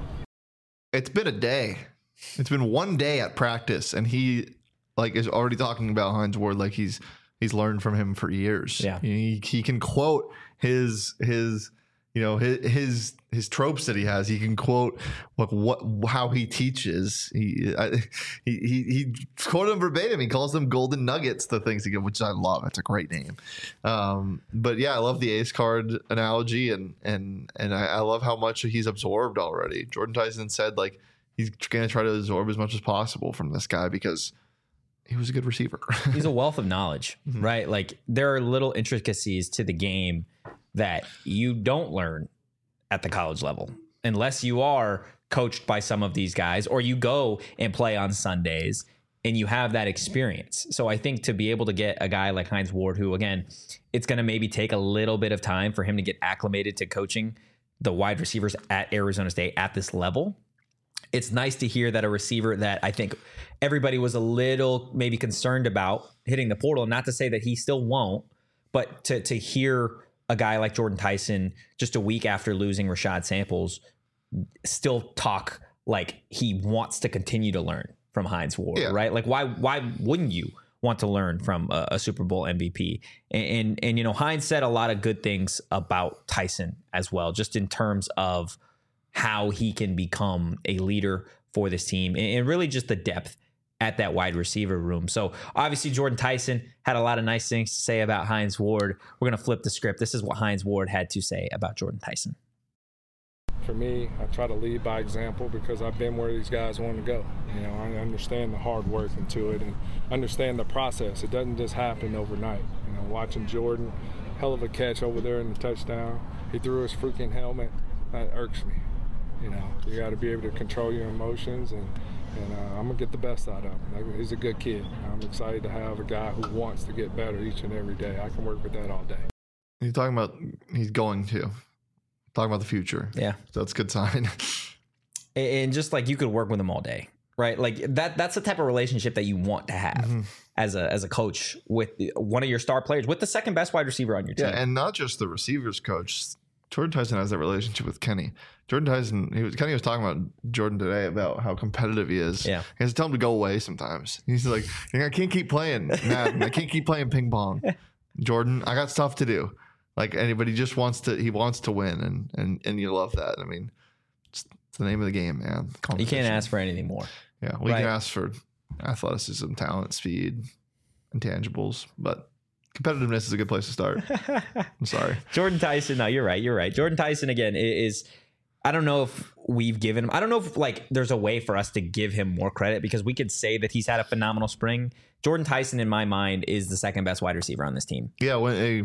It's been a day. It's been one day at practice, and he like is already talking about Hines Ward like he's he's learned from him for years. Yeah. he, he can quote his his you know his his his tropes that he has. He can quote like what how he teaches. He I, he he he quoted them verbatim. He calls them golden nuggets, the things he give, which I love. It's a great name. Um, but yeah, I love the ace card analogy, and and and I, I love how much he's absorbed already. Jordan Tyson said like he's going to try to absorb as much as possible from this guy because he was a good receiver. He's a wealth of knowledge, right? Like there are little intricacies to the game that you don't learn at the college level unless you are coached by some of these guys or you go and play on Sundays and you have that experience. So I think to be able to get a guy like Hines Ward, who again, it's going to maybe take a little bit of time for him to get acclimated to coaching the wide receivers at Arizona State at this level. It's nice to hear that a receiver that I think everybody was a little maybe concerned about hitting the portal, not to say that he still won't, but to to hear a guy like Jordan Tyson just a week after losing Rashad Samples still talk like he wants to continue to learn from Hines Ward, Yeah. right? Like why why wouldn't you want to learn from a, a Super Bowl M V P? And, and and you know, Hines said a lot of good things about Tyson as well, just in terms of how he can become a leader for this team and really just the depth at that wide receiver room. So obviously Jordan Tyson had a lot of nice things to say about Hines Ward. We're going to flip the script. This is what Hines Ward had to say about Jordan Tyson. For me, I try to lead by example because I've been where these guys want to go. You know, I understand the hard work into it and understand the process. It doesn't just happen overnight. You know, watching Jordan, hell of a catch over there in the touchdown. He threw his freaking helmet. That irks me. You know, you got to be able to control your emotions, and, and uh, I'm going to get the best out of him. Like, he's a good kid. I'm excited to have a guy who wants to get better each and every day. I can work with that all day. He's talking about he's going to. Talking about the future. Yeah. So that's a good sign. And just like you could work with him all day, right? Like that that's the type of relationship that you want to have mm-hmm. as a as a coach with one of your star players, with the second best wide receiver on your team. Yeah, and not just the receivers coach. Jordan Tyson has that relationship with Kenny. Jordan Tyson, he was Kenny was talking about Jordan today about how competitive he is. Yeah. He has to tell him to go away sometimes. He's like, I can't keep playing Madden. I can't keep playing ping pong. Jordan, I got stuff to do. Like anybody just wants to, he wants to win, and and and you love that. I mean, it's, it's the name of the game, man. You can't ask for anything more. Yeah, we right. can ask for athleticism, talent, speed, intangibles, but competitiveness is a good place to start. I'm sorry, Jordan Tyson. No, you're right. You're right. Jordan Tyson again is. I don't know if we've given him. I don't know if like there's a way for us to give him more credit, because we could say that he's had a phenomenal spring. Jordan Tyson, in my mind, is the second best wide receiver on this team. Yeah, when a.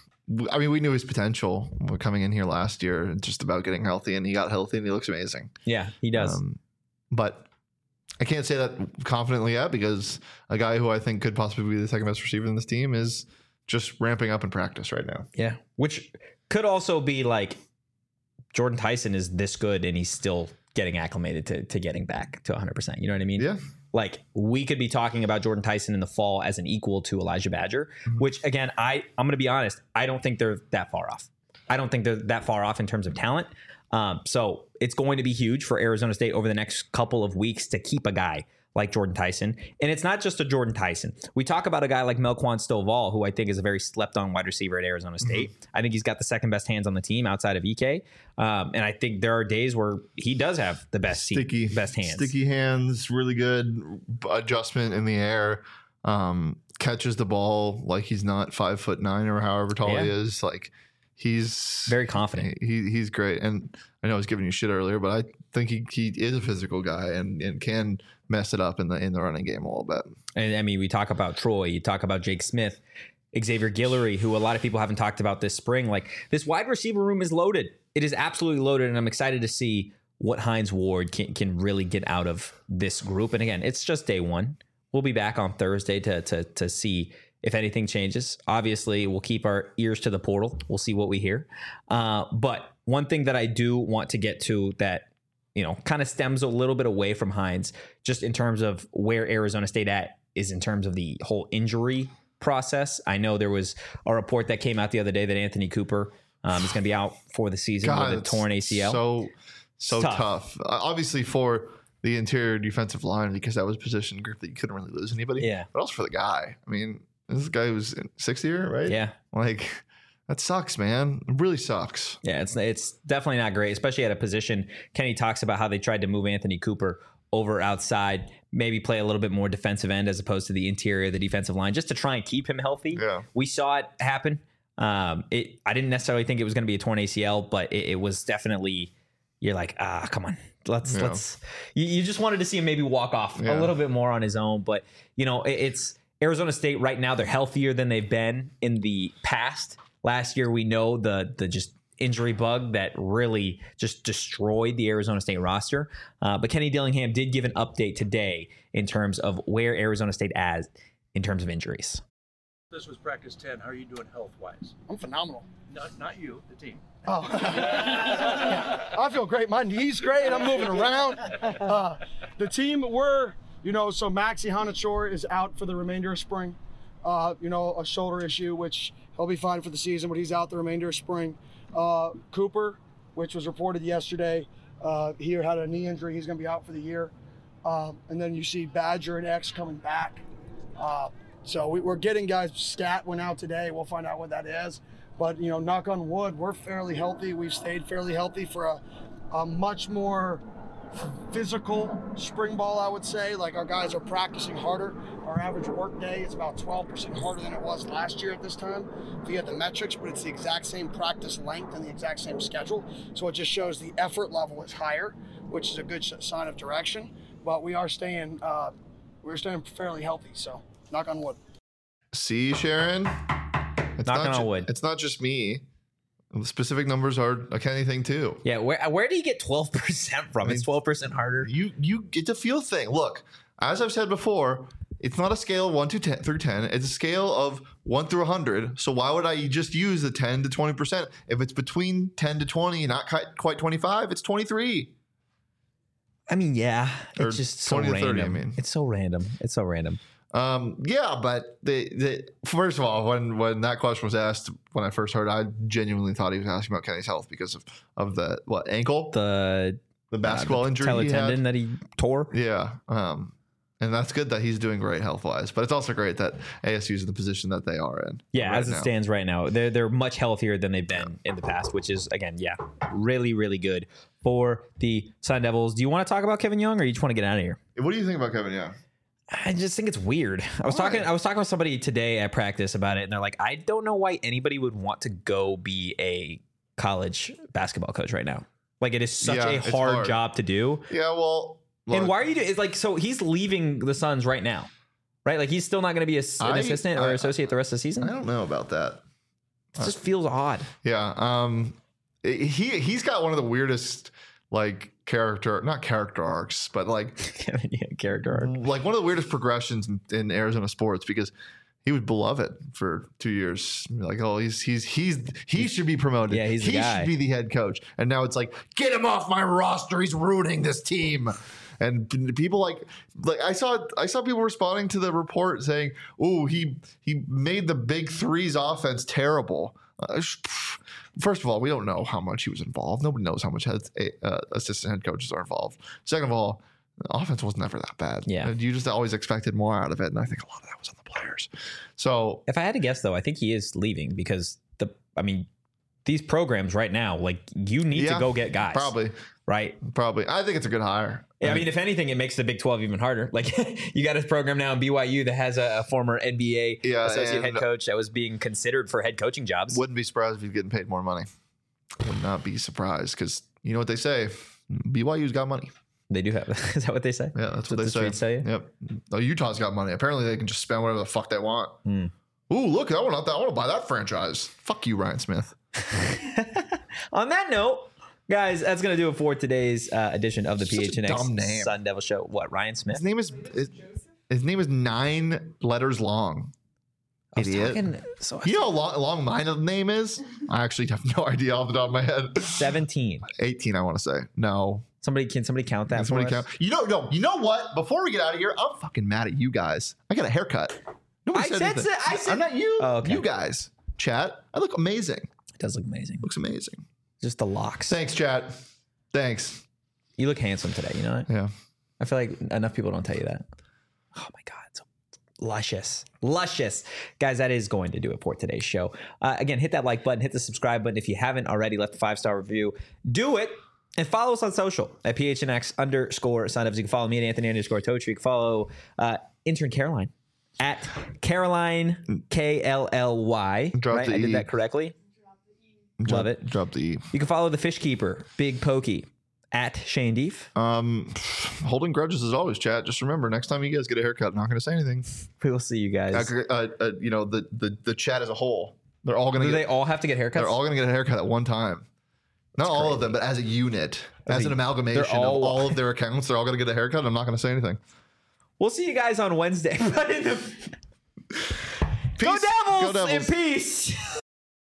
I mean, we knew his potential coming in here last year, just about getting healthy, and he got healthy, and he looks amazing. Yeah, he does. Um, but I can't say that confidently yet, because a guy who I think could possibly be the second best receiver in this team is just ramping up in practice right now. Yeah, which could also be like Jordan Tyson is this good, and he's still getting acclimated to, to getting back to one hundred percent. You know what I mean? Yeah. Like we could be talking about Jordan Tyson in the fall as an equal to Elijah Badger, mm-hmm. which again, I, I'm going to be honest. I don't think they're that far off. I don't think they're that far off in terms of talent. Um, so it's going to be huge for Arizona State over the next couple of weeks to keep a guy like Jordan Tyson. And it's not just a Jordan Tyson. We talk about a guy like Melquan Stovall, who I think is a very slept on wide receiver at Arizona State. Mm-hmm. I think he's got the second best hands on the team outside of E K. Um, and I think there are days where he does have the best sticky, seat, best hands. Sticky hands, really good adjustment in the air. Um, catches the ball like he's not five foot nine or however tall yeah. he is. Like he's very confident. He he's great. And I know I was giving you shit earlier, but I think he, he is a physical guy and, and can mess it up in the in the running game a little bit. And I mean, we talk about Troy, you talk about Jake Smith, Xavier Guillory, who a lot of people haven't talked about this spring. Like this wide receiver room is loaded. It is absolutely loaded, and I'm excited to see what Hines Ward can, can really get out of this group. And again, it's just day one. We'll be back on Thursday to to to see if anything changes. Obviously, we'll keep our ears to the portal. We'll see what we hear. Uh, but one thing that I do want to get to that, you know, kind of stems a little bit away from Hines, just in terms of where Arizona State at is in terms of the whole injury process. I know there was a report that came out the other day that Anthony Cooper um, is going to be out for the season God, with a torn A C L. So, so tough. tough. Uh, obviously for the interior defensive line, because that was a position group that you couldn't really lose anybody. Yeah. But also for the guy. I mean, this guy was in sixth year, right? Yeah. Like, that sucks, man. It really sucks. Yeah, it's it's definitely not great, especially at a position. Kenny talks about how they tried to move Anthony Cooper over outside, maybe play a little bit more defensive end as opposed to the interior of the defensive line, just to try and keep him healthy. Yeah. We saw it happen. Um, it I didn't necessarily think it was going to be a torn A C L, but it, it was definitely. You're like, ah, come on, let's yeah. let's. You, you just wanted to see him maybe walk off yeah. a little bit more on his own, but you know, it, it's Arizona State right now. They're healthier than they've been in the past. Last year, we know the the just injury bug that really just destroyed the Arizona State roster. Uh, but Kenny Dillingham did give an update today in terms of where Arizona State is in terms of injuries. This was practice ten. How are you doing health-wise? I'm phenomenal. Not, not you, the team. Oh, I feel great. My knee's great. I'm moving around. Uh, the team, we're, you know, so Maxi Hanachor is out for the remainder of spring. Uh, you know, a shoulder issue, which he'll be fine for the season, but he's out the remainder of spring. Uh, Cooper, which was reported yesterday, uh, he had a knee injury. He's going to be out for the year. Um, and then you see Badger and X coming back. Uh, so we, we're getting guys. Stat went out today. We'll find out what that is. But, you know, knock on wood, we're fairly healthy. We've stayed fairly healthy for a, a much more physical spring ball, I would say. Like, our guys are practicing harder. Our average work day is about twelve percent harder than it was last year at this time, if you had the metrics, but it's the exact same practice length and the exact same schedule. So it just shows the effort level is higher, which is a good sign of direction. But we are staying, uh, we're staying fairly healthy. So knock on wood. See, Sharon, it's Knocking not on ju- wood. It's not just me. The specific numbers are a Kenny thing too. Yeah, where where do you get twelve percent from? It's twelve percent harder. You you get to feel thing. Look, as I've said before, it's not a scale of one to ten through ten. It's a scale of one through a hundred. So why would I just use the ten to twenty percent? If it's between ten to twenty, not quite, quite twenty-five, it's twenty-three. I mean, yeah, Or it's just so twenty to thirty, random. I mean. It's so random. It's so random. Um, yeah, but the, the first of all, when when that question was asked, when I first heard, I genuinely thought he was asking about Kenny's health because of of the what ankle, The the basketball uh, the injury patella he tendon had. that he tore. Yeah, um, and that's good that he's doing great health wise. But it's also great that A S U's in the position that they are in. Yeah, right as it now. stands right now, they're they're much healthier than they've been in the past, which is again, yeah, really really good for the Sun Devils. Do you want to talk about Kevin Young, or you just want to get out of here? What do you think about Kevin Young? I just think it's weird. I was Why? talking I was talking with somebody today at practice about it, and they're like, I don't know why anybody would want to go be a college basketball coach right now. Like, it is such Yeah, a it's hard, hard. job to do. Yeah, well, And look, why are you doing? It's like, so he's leaving the Suns right now, right? Like, he's still not going to be a, an I- assistant or I- associate the rest of the season. I don't know about that. It just feels odd. Yeah, um, he he's got one of the weirdest like character, not character arcs, but like yeah, character arc. like one of the weirdest progressions in, in Arizona sports because he was beloved for two years. Like, oh, he's he's he's he should be promoted. Yeah, he's the he guy. should be the head coach. And now it's like, get him off my roster. He's ruining this team. And people like like I saw I saw people responding to the report saying, "Oh, he he made the big threes offense terrible." Uh, sh- First of all, we don't know how much he was involved. Nobody knows how much head, uh, assistant head coaches are involved. Second of all, the offense was never that bad. Yeah. And you just always expected more out of it, and I think a lot of that was on the players. So If I had to guess, though, I think he is leaving because the, I mean, these programs right now, like, you need yeah, to go get guys. Probably, Right? probably. I think it's a good hire. I mean, if anything, it makes the Big twelve even harder. Like, you got a program now in B Y U that has a, a former N B A Yeah, associate and- head coach that was being considered for head coaching jobs. Wouldn't be surprised if he's getting paid more money. Would not be surprised because you know what they say. B Y U's got money. They do have. Is that what they say? Yeah, that's, That's what, what the they say. streets tell you? Yep. Oh, Utah's got money. Apparently, they can just spend whatever the fuck they want. Hmm. Ooh, look! I want that. I want to buy that franchise. Fuck you, Ryan Smith. On that note, guys, that's going to do it for today's uh, edition of the Such a P H N X dumb name. Sun Devil Show. What, Ryan Smith? His name is his, his name is nine letters long. I was Idiot. talking, so You know how long, long my name is? I actually have no idea off the top of my head. seventeen. eighteen, I want to say. No. Somebody can somebody count that? Can For somebody us? count? You know, no. You know what? Before we get out of here, I'm fucking mad at you guys. I got a haircut. Nobody I said said anything. so- I said- I'm not you. Oh, okay. You guys. Chat. I look amazing. It does look amazing. Looks amazing. Just the locks. Thanks, chat. Thanks. You look handsome today. You know that? Yeah. I feel like enough people don't tell you that. Oh my God. So luscious. Luscious. Guys, that is going to do it for today's show. Uh, again, hit that like button, hit the subscribe button. If you haven't already left a five-star review, do it. And follow us on social at P H N X underscore Sun Devils. You can follow me at Anthony underscore Totri. You can follow uh, intern Caroline at Caroline, K L L Y. Drop Right? the I did E. that correctly. Drop, Love it. Drop the E. You can follow the Fish Keeper, Big Pokey, at Shane Deef. Um, holding grudges as always, chat. Just remember, next time you guys get a haircut, I'm not going to say anything. We will see you guys. Uh, uh, uh, you know, the, the the chat as a whole, they're all going to Do get. they all have to get haircuts? They're all going to get a haircut at one time. Not all of them, but as a unit, As as a- an amalgamation they're all- of all of their accounts, they're all going to get a haircut. I'm not going to say anything. We'll see you guys on Wednesday. But in the... Peace. Go Devils, Go Devils. and peace.